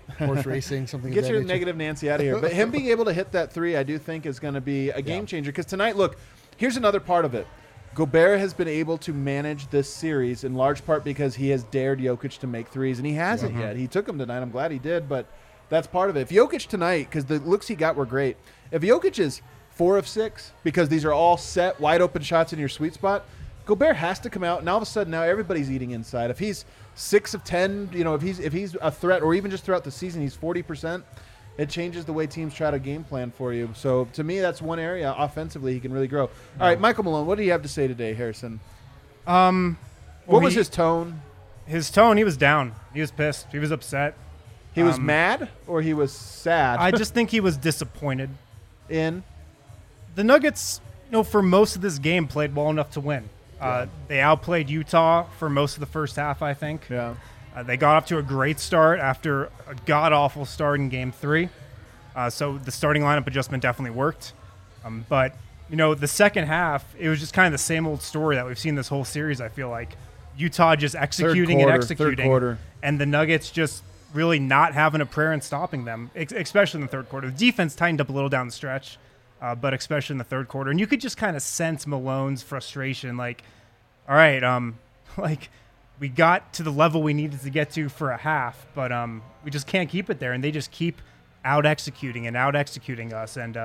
horse racing, something. Get of that your nature. negative Nancy out of here. But him being able to hit that three, I do think is going to be a game changer. Because tonight, look, here's another part of it. Gobert has been able to manage this series in large part because he has dared Jokic to make threes, and he hasn't yet. He took them tonight. I'm glad he did, but that's part of it. If Jokic tonight, because the looks he got were great, if Jokic is 4 of 6 because these are all set, wide open shots in your sweet spot, Gobert has to come out, and all of a sudden now everybody's eating inside. If he's 6 of 10, if he's a threat, or even just throughout the season, he's 40%. It changes the way teams try to game plan for you. So to me, that's one area offensively he can really grow. All right, Michael Malone, what do you have to say today, Harrison? What was his tone? His tone, he was down. He was pissed. He was upset. He was mad or he was sad? I just think he was disappointed. In the Nuggets, for most of this game, played well enough to win. They outplayed Utah for most of the first half, I think. Yeah. They got off to a great start after a god-awful start in Game 3. So the starting lineup adjustment definitely worked. But, the second half, it was just kind of the same old story that we've seen this whole series, I feel like. Utah just executing and executing. Third quarter. And the Nuggets just really not having a prayer in stopping them, especially in the third quarter. The defense tightened up a little down the stretch, but especially in the third quarter. And you could just kind of sense Malone's frustration, like, all right, we got to the level we needed to get to for a half, but we just can't keep it there. And they just keep out-executing us. And,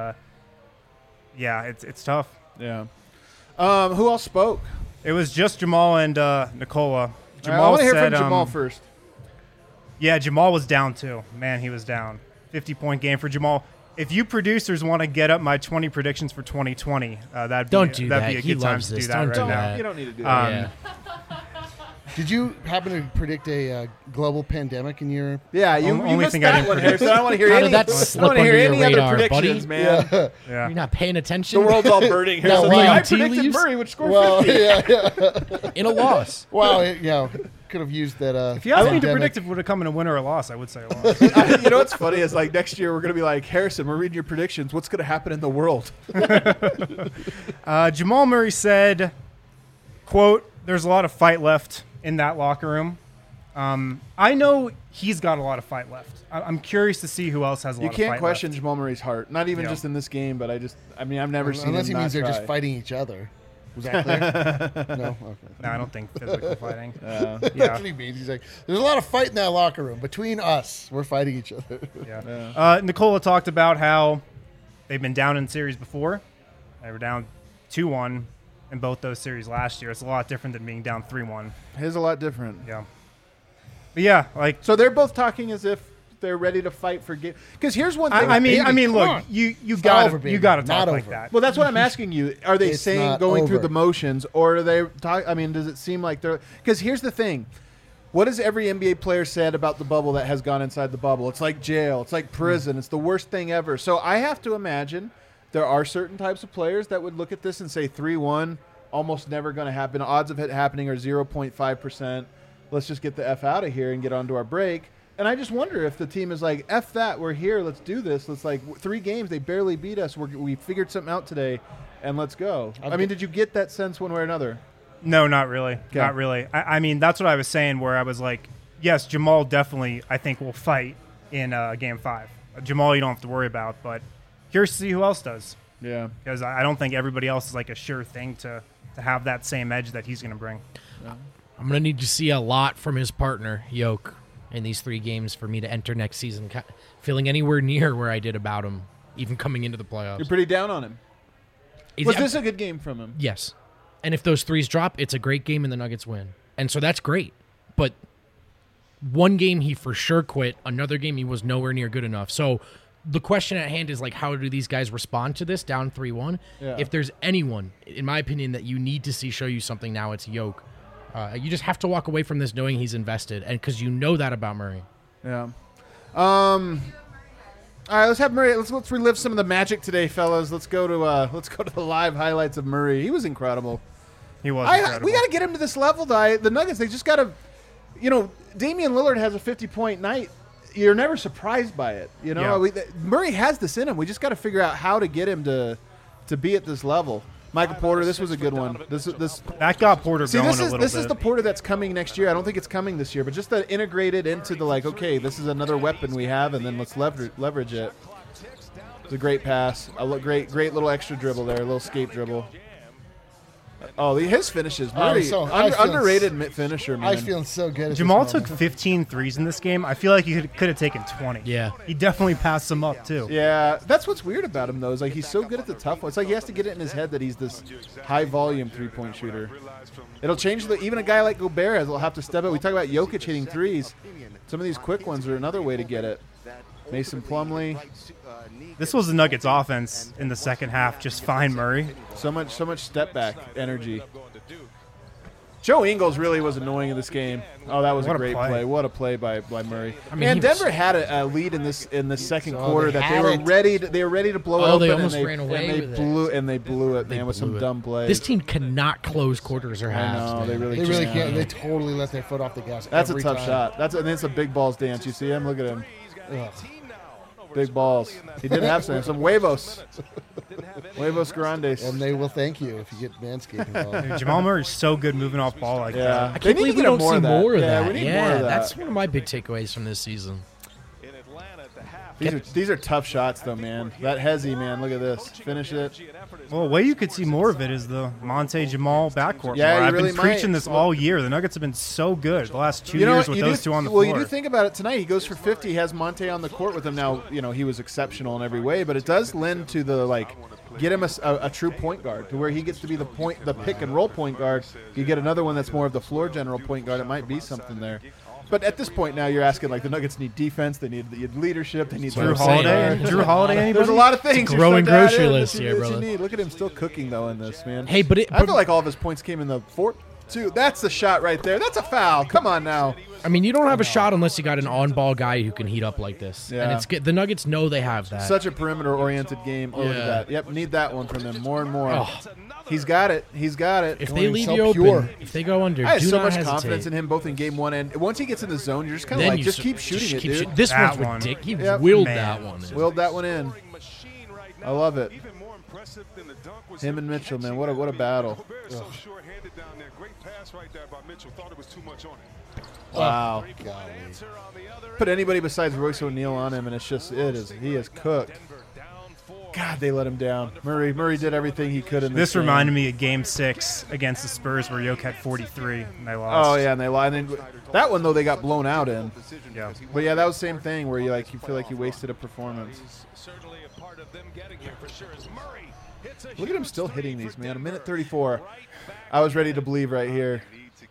it's tough. Yeah. Who else spoke? It was just Jamal and Nikola. Jamal I want to hear said, from Jamal first. Yeah, Jamal was down too. Man, he was down. 50-point game for Jamal. If you producers want to get up my 20 predictions for 2020, that'd be a good time to do that right now. You don't need to do that. Did you happen to predict a global pandemic in your? Yeah, you only missed thing I that didn't one, predict. Harrison. I don't want to hear How any. did that I slip don't want to hear under any your other radar, predictions, buddy? man. Yeah. You're not paying attention. The world's all burning. No, Harrison's wow. like, I Tea predicted leaves? Murray would score Well, 50. yeah. In a loss. Wow, could have used that. If you asked me to pandemic. predict if it would have come in a win or a loss, I would say a loss. You know what's funny is like next year we're going to be like, Harrison, we're reading your predictions. What's going to happen in the world? Jamal Murray said, quote, "There's a lot of fight left in that locker room." I know he's got a lot of fight left. I'm curious to see who else has a lot You of fight can't question left. Jamal Murray's heart. Not even just in this game, but I've never seen Unless him he not means they're try. just fighting each other. Was that clear? No. Okay. No, I don't think physical fighting. That's what he means. He's like, there's a lot of fight in that locker room. Between us, we're fighting each other. Yeah. Nikola talked about how they've been down in series before. They were down 2-1 in both those series last year. It's a lot different than being down 3-1. It is a lot different. Yeah. But yeah, like So they're both talking as if they're ready to fight for game. Because here's one thing. I mean, come look, on. you It's got over, to baby. talk Not like over. that. Well, that's what I'm asking you. Are they It's saying not going through over. the motions, or are they talk? I mean, does it seem like they're? Because here's the thing: what has every NBA player said about the bubble that has gone inside the bubble? It's like jail. It's like prison. It's the worst thing ever. So I have to imagine there are certain types of players that would look at this and say 3-1, almost never going to happen. Odds of it happening are 0.5%. Let's just get the F out of here and get on to our break. And I just wonder if the team is like, F that, we're here, let's do this. Let's 3 games, they barely beat us. We figured something out today, and let's go. I mean, did you get that sense one way or another? No, not really. Okay. Not really. I mean, that's what I was saying where I was like, yes, Jamal definitely, I think, will fight in Game 5. Jamal, you don't have to worry about, but curious to see who else does. Yeah. Because I don't think everybody else is like a sure thing to have that same edge that he's going to bring. I'm going to need to see a lot from his partner, Yoke, in these 3 games for me to enter next season feeling anywhere near where I did about him, even coming into the playoffs. You're pretty down on him. Was this a good game from him? Yes. And if those 3s drop, it's a great game and the Nuggets win. And so that's great. But one game he for sure quit. Another game he was nowhere near good enough. So the question at hand is, like, how do these guys respond to this down 3-1? Yeah. If there's anyone, in my opinion, that you need to see show you something now, it's Yoke. You just have to walk away from this knowing he's invested, and because you know that about Murray. Yeah. All right, let's have Murray. Let's relive some of the magic today, fellas. Let's go to the live highlights of Murray. He was incredible. He was incredible. We got to get him to this level, though. The Nuggets, they just got to, Damian Lillard has a 50-point night. You're never surprised by it. Yeah. Murray has this in him. We just got to figure out how to get him to be at this level. Michael Porter, this was a good one. This That got Porter See, going this a is little this bit. is the Porter that's coming next year. I don't think it's coming this year, but just to integrate it into the okay, this is another weapon we have, and then let's leverage it. It's a great pass. Great little extra dribble there, a little escape dribble. Oh, his finishes. Underrated finisher, man. I was feeling so good. Jamal took 15 threes in this game. I feel like he could have taken 20. Yeah. He definitely passed some up, too. Yeah, that's what's weird about him, though, is he's so good at the tough one. It's like he has to get it in his head that he's this high-volume three-point shooter. It'll change even a guy like Gobert will have to step up. We talk about Jokic hitting threes. Some of these quick ones are another way to get it. Mason Plumlee. This was the Nuggets offense in the second half. Just find Murray. So much step back energy. Joe Ingles really was annoying in this game. Oh, that was a great play. What a play by Murray. And Denver had a lead in this second quarter that they were ready to blow it open. They almost ran away with it. And they blew it, man, with some dumb plays. This team cannot close quarters or halves. I know, they really can't. They totally let their foot off the gas. That's a tough shot. And it's a big balls dance. You see him? Look at him. Ugh. Big balls. He did have some huevos. Huevos grandes. And they will thank you if you get Manscaped involved. Dude, Jamal Murray's so good moving off ball like that. I can't believe we don't see more of that. We need more of that. That's one of my big takeaways from this season. These are tough shots, though, man. That Hezzy, man, look at this. Finish it. Well, a way you could see more of it is the Monte Jamal backcourt. Yeah, I've really been preaching this all year. The Nuggets have been so good the last 2 years with those two on the floor. Well, you do think about it tonight. He goes for 50. He has Monte on the court with him now. He was exceptional in every way, but it does lend to the get him a true point guard to where he gets to be the pick and roll point guard. You get another one that's more of the floor general point guard. It might be something there. But at this point now, you're asking the Nuggets need defense, they need leadership, they need Drew Holiday. Drew Holiday. Anybody? There's a lot of things. It's a growing grocery list here, brother. Look at him still cooking though in this, man. Hey, but I feel like all of his points came in the fourth. Too. That's the shot right there. That's a foul. Come on now. I mean, you don't have a shot unless you got an on-ball guy who can heat up like this. Yeah. And it's good. The Nuggets know they have that. Such a perimeter-oriented game. Oh, look at that. Yep, need that one from them more and more. Oh. He's got it. He's got it. If they leave you open, if they go under, I have do so not much hesitate. confidence in him both in game one and once he gets in the zone, you're just kind of just keep shooting it, dude. This That one's one. ridiculous. He Yep. willed Man. that one. Willed that one in. I love it. Him and Mitchell, man, what a battle. Wow. Put anybody besides Royce O'Neal on him, and he is cooked. God, they let him down. Murray did everything he could in this game. reminded me of Game 6 against the Spurs where Jokic had 43 and they lost. Oh, yeah, and they lied. That one, though, they got blown out in. Yeah. But, yeah, that was the same thing where you feel like you wasted a performance. Look at him still hitting these, man. A minute 34. I was ready to believe right here.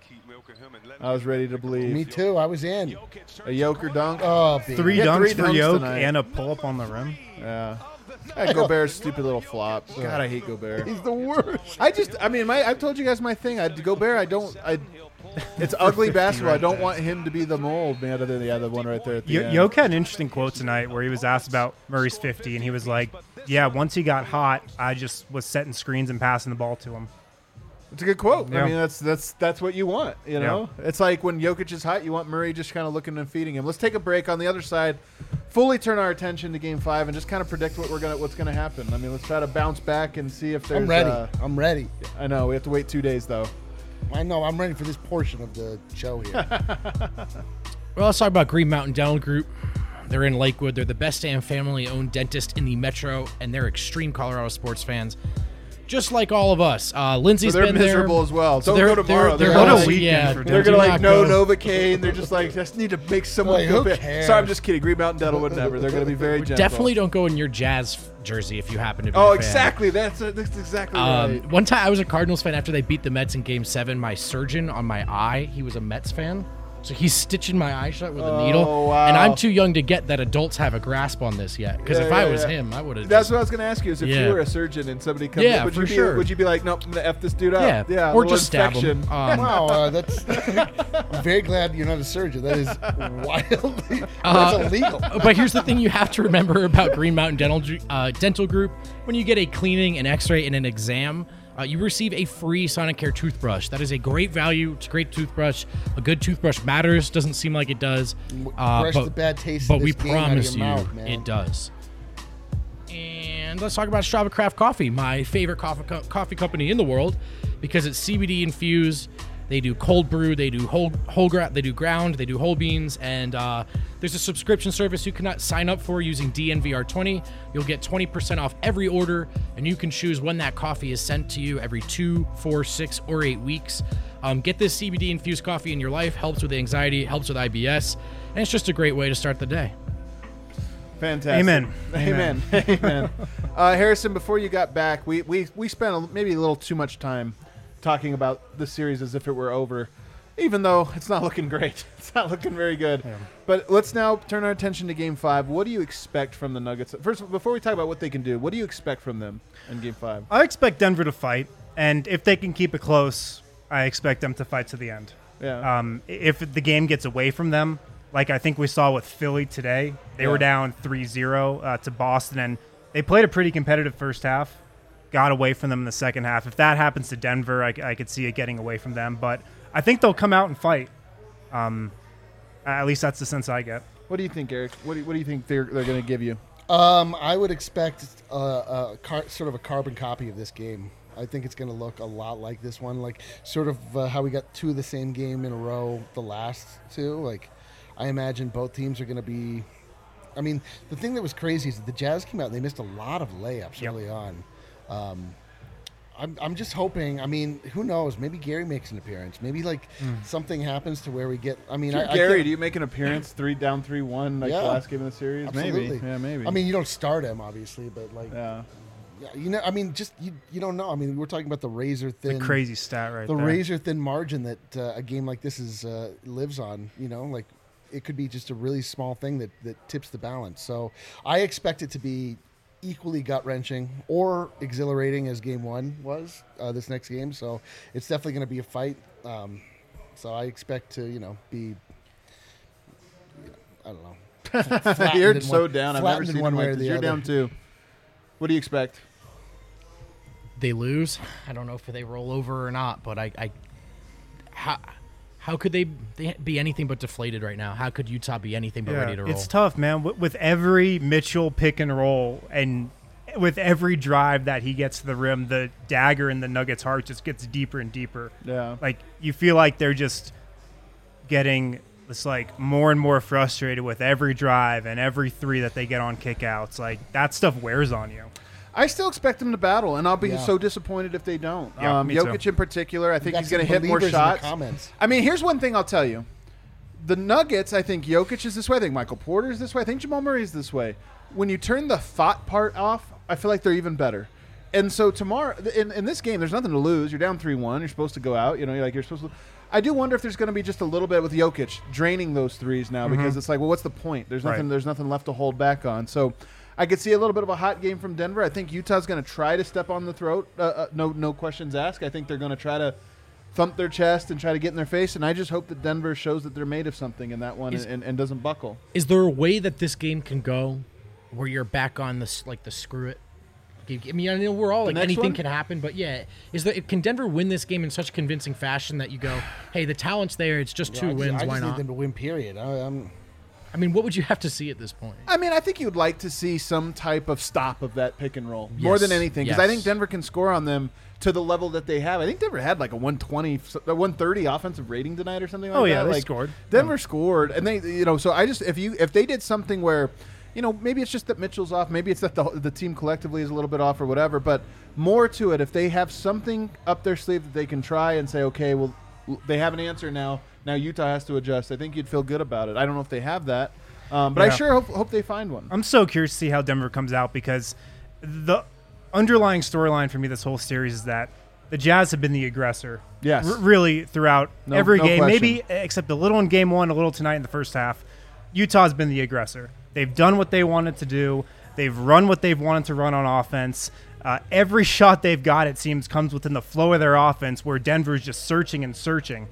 I was ready to believe. Me too. I was in. A Joker dunk. Oh, baby. Three Yeah, dunks three for dunks Jokic tonight. and a pull-up on the rim. Yeah. Gobert's stupid little flop. God, I hate Gobert. He's the worst. I've told you guys my thing. Gobert, it's ugly basketball. I don't want him to be the mold, man, other than the one right there at the end. Jokic had an interesting quote tonight where he was asked about Murray's 50, and he was like, yeah, once he got hot, I just was setting screens and passing the ball to him. It's a good quote. Yeah. I mean, that's what you want, you know? Yeah. It's like when Jokic is hot, you want Murray just kind of looking and feeding him. Let's take a break. On the other side, fully turn our attention to Game 5 and just kind of predict what's gonna happen. I mean, let's try to bounce back and see if there's... I'm ready. I'm ready. I know. We have to wait 2 days, though. I know. I'm ready for this portion of the show here. Well, let's talk about Green Mountain Dental Group. They're in Lakewood. They're the best damn family-owned dentist in the metro, and they're extreme Colorado sports fans. Just like all of us. Lindsay's so they're been miserable there. as well. So Don't go tomorrow. They're What a like, weekend yeah, for They're do going to not no go. Novocaine. They're just like, just need to make someone Like, feel who bad. cares? Sorry, I'm just kidding. Green Mountain Dental would never. They're going to be very gentle. Definitely don't go in your Jazz jersey if you happen to be Oh, a fan. exactly. That's exactly right. One time I was a Cardinals fan after they beat the Mets in Game 7. My surgeon on my eye, he was a Mets fan. So he's stitching my eye shut with a needle. Wow. And I'm too young to get that adults have a grasp on this yet. Because if I was him, I would have. That's what I was going to ask you is if Yeah. you were a surgeon and somebody comes Yeah, in, for sure. would you be like, nope, I'm going to F this dude up? Yeah, a or little just stab him. infection. Wow, that's. I'm very glad you're not a surgeon. That is wildly. That's illegal. But here's the thing you have to remember about Green Mountain Dental Group. When you get a cleaning, an x-ray, and an exam, you receive a free Sonicare toothbrush. That is a great value. It's a great toothbrush. A good toothbrush matters. Doesn't seem like it does. Brush the bad taste But of we this game out of promise your you mouth, man. it does. And And let's talk about Strava Craft Coffee, my favorite coffee company in the world, because it's CBD infused. They do cold brew, they do they do ground, they do whole beans, and there's a subscription service you can sign up for using DNVR20. You'll get 20% off every order, and you can choose when that coffee is sent to you every 2, 4, 6, or 8 weeks. Get this CBD infused coffee in your life. Helps with anxiety, helps with IBS, and it's just a great way to start the day. Fantastic. Amen. Amen. Amen. Harrison, before you got back, we spent maybe a little too much time talking about the series as if it were over, even though it's not looking great. It's not looking very good. Yeah. But let's now turn our attention to Game 5. What do you expect from the Nuggets? First, before we talk about what they can do, what do you expect from them in Game 5? I expect Denver to fight, and if they can keep it close, I expect them to fight to the end. Yeah. If the game gets away from them, like I think we saw with Philly today, they were down 3-0 to Boston, and they played a pretty competitive first half. Got away from them in the second half. If that happens to Denver, I could see it getting away from them. But I think they'll come out and fight. At least that's the sense I get. What do you think, Eric? What do you think they're going to give you? I would expect sort of a carbon copy of this game. I think it's going to look a lot like this one, like sort of how we got 2 of the same game in a row the last 2. Like, I imagine both teams are going to be. I mean, the thing that was crazy is that the Jazz came out and they missed a lot of layups early on. I'm just hoping. I mean, who knows? Maybe Gary makes an appearance. Maybe something happens to where we get. I mean, Gary, do you make an appearance 3-1 like the last game of the series? Absolutely. Maybe. Yeah, maybe. I mean, you don't start him obviously, but yeah, you know. I mean, just you don't know. I mean, we're talking about the razor thin, the crazy stat right the there. razor thin margin that a game like this is lives on. You know, like it could be just a really small thing that tips the balance. So I expect it to be equally gut-wrenching or exhilarating as Game 1 was this next game. So it's definitely going to be a fight. So I expect to, be, I don't know. You're so down. I've never seen one way. You're down too. What do you expect? They lose. I don't know if they roll over or not, but how could they be anything but deflated right now? How could Utah be anything but ready to roll? It's tough, man. With every Mitchell pick and roll and with every drive that he gets to the rim, the dagger in the Nuggets' heart just gets deeper and deeper. Yeah. Like, you feel like they're just getting this, like, more and more frustrated with every drive and every 3 that they get on kickouts. Like, that stuff wears on you. I still expect them to battle, and I'll be so disappointed if they don't. Yeah, me Jokic too. in particular, I think he's going to hit more shots. I mean, here's one thing I'll tell you. The Nuggets, I think Jokic is this way. I think Michael Porter is this way. I think Jamal Murray is this way. When you turn the thought part off, I feel like they're even better. And so tomorrow, in this game, there's nothing to lose. You're down 3-1. You're supposed to go out. You're supposed to. I do wonder if there's going to be just a little bit with Jokic draining those threes now because it's like, well, what's the point? There's nothing. Right. There's nothing left to hold back on. So I could see a little bit of a hot game from Denver. I think Utah's going to try to step on the throat. No questions asked. I think they're going to try to thump their chest and try to get in their face. And I just hope that Denver shows that they're made of something in that one and doesn't buckle. Is there a way that this game can go where you're back on the screw it? I mean, I know we're all like anything can happen, but yeah, can Denver win this game in such convincing fashion that you go, hey, the talent's there, it's just 2 wins, why not? I just need them to win, period. I mean, what would you have to see at this point? I mean, I think you'd like to see some type of stop of that pick and roll more than anything because I think Denver can score on them to the level that they have. I think Denver had like a 130 offensive rating tonight or something like that. Oh yeah, they scored. Denver scored, and they, so I just if they did something where, maybe it's just that Mitchell's off, maybe it's that the team collectively is a little bit off or whatever, but more to it, if they have something up their sleeve that they can try and say, okay, well, they have an answer now. Now Utah has to adjust. I think you'd feel good about it. I don't know if they have that, but I sure hope they find one. I'm so curious to see how Denver comes out because the underlying storyline for me this whole series is that the Jazz have been the aggressor. Yes. Really throughout every game, question. maybe except a little in game 1, a little tonight in the first half. Utah's been the aggressor. They've done what they wanted to do. They've run what they've wanted to run on offense. Every shot they've got, it seems, comes within the flow of their offense where Denver's just searching and searching.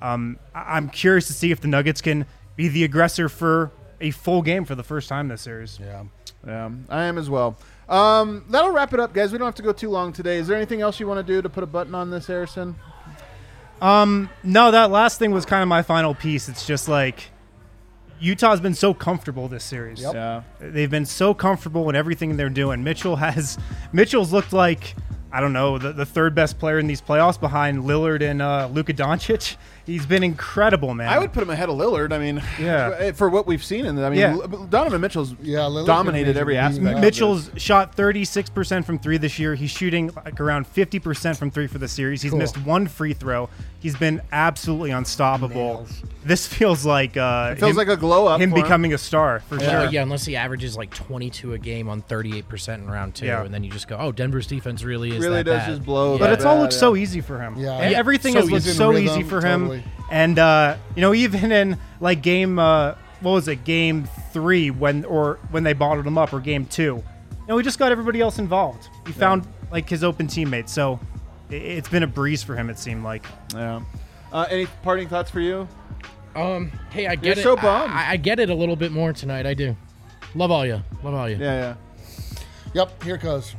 I'm curious to see if the Nuggets can be the aggressor for a full game for the first time this series. Yeah, I am as well. That'll wrap it up, guys. We don't have to go too long today. Is there anything else you want to do to put a button on this, Harrison? No, that last thing was kind of my final piece. It's just like Utah's been so comfortable this series. Yep. Yeah. They've been so comfortable in everything they're doing. Mitchell's looked like, I don't know, the third best player in these playoffs behind Lillard and Luka Doncic. He's been incredible, man. I would put him ahead of Lillard. I mean, Yeah. for what we've seen. Donovan Mitchell's Lillard's dominated been every amazing. aspect. Mitchell's shot 36% from three this year. He's shooting like around 50% from three for the series. He's Cool. missed one free throw. He's been absolutely unstoppable. Nails. This feels like It feels like a glow up. him for becoming a star for Well, sure. yeah, unless he averages like 22 a game on 38% in round 2, Yeah. and then you just go, oh, Denver's defense really is Really that does bad. just blow. But that it's all bad, looked yeah. so easy for him. Yeah. And Yeah. everything So has looked he's in so rhythm, easy for him. totally. And even in like game, what was it, game 3 when they bottled him up, or game 2, he just got everybody else involved. He found like his open teammates. So it's been a breeze for him. It seemed like. Yeah. Any parting thoughts for you? Hey, I get You're it. so bummed. I get it a little bit more tonight. I do. Love all you. Yeah. Yep, here it goes.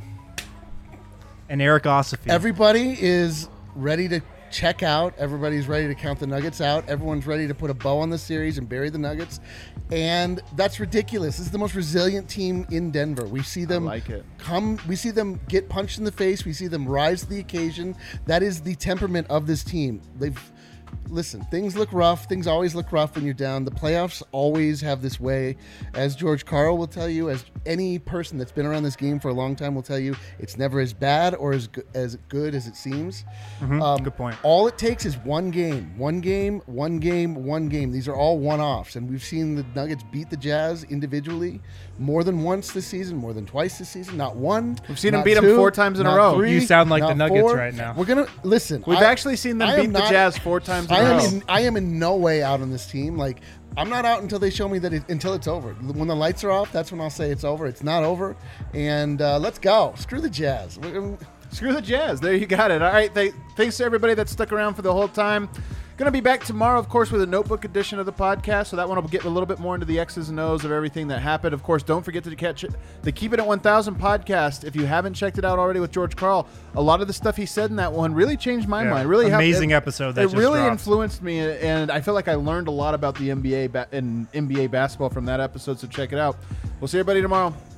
And Eric Ossoffy. Everybody is ready to check out. Everybody's ready to count the Nuggets out. Everyone's ready to put a bow on the series and bury the Nuggets. And that's ridiculous. This is the most resilient team in Denver. We see them like it. we see them get punched in the face. We see them rise to the occasion. That is the temperament of this team. Listen, things look rough. Things always look rough when you're down. The playoffs always have this way. As George Karl will tell you, as any person that's been around this game for a long time will tell you, it's never as bad or as good as it seems. Good point. All it takes is one game. These are all one-offs. And we've seen the Nuggets beat the Jazz individually more than once this season, more than twice this season. Not one. We've seen them not beat them two, 4 times in a not row. three, You sound like the not Nuggets four. right now. We're going to listen. We've actually seen them I beat am the not- Jazz 4 times in a row. I am in no way out on this team. Like, I'm not out until they show me that until it's over. When the lights are off, that's when I'll say it's over. It's not over. And let's go. Screw the Jazz. Screw the Jazz. There you got it. All right. Thanks to everybody that stuck around for the whole time. Going to be back tomorrow, of course, with a notebook edition of the podcast. So that one will get a little bit more into the X's and O's of everything that happened. Of course, don't forget to catch the Keep It at 1000 podcast. If you haven't checked it out already with George Karl, a lot of the stuff he said in that one really changed my mind. Really amazing episode that it just really dropped. influenced me, and I feel like I learned a lot about the NBA and NBA basketball from that episode. So check it out. We'll see everybody tomorrow.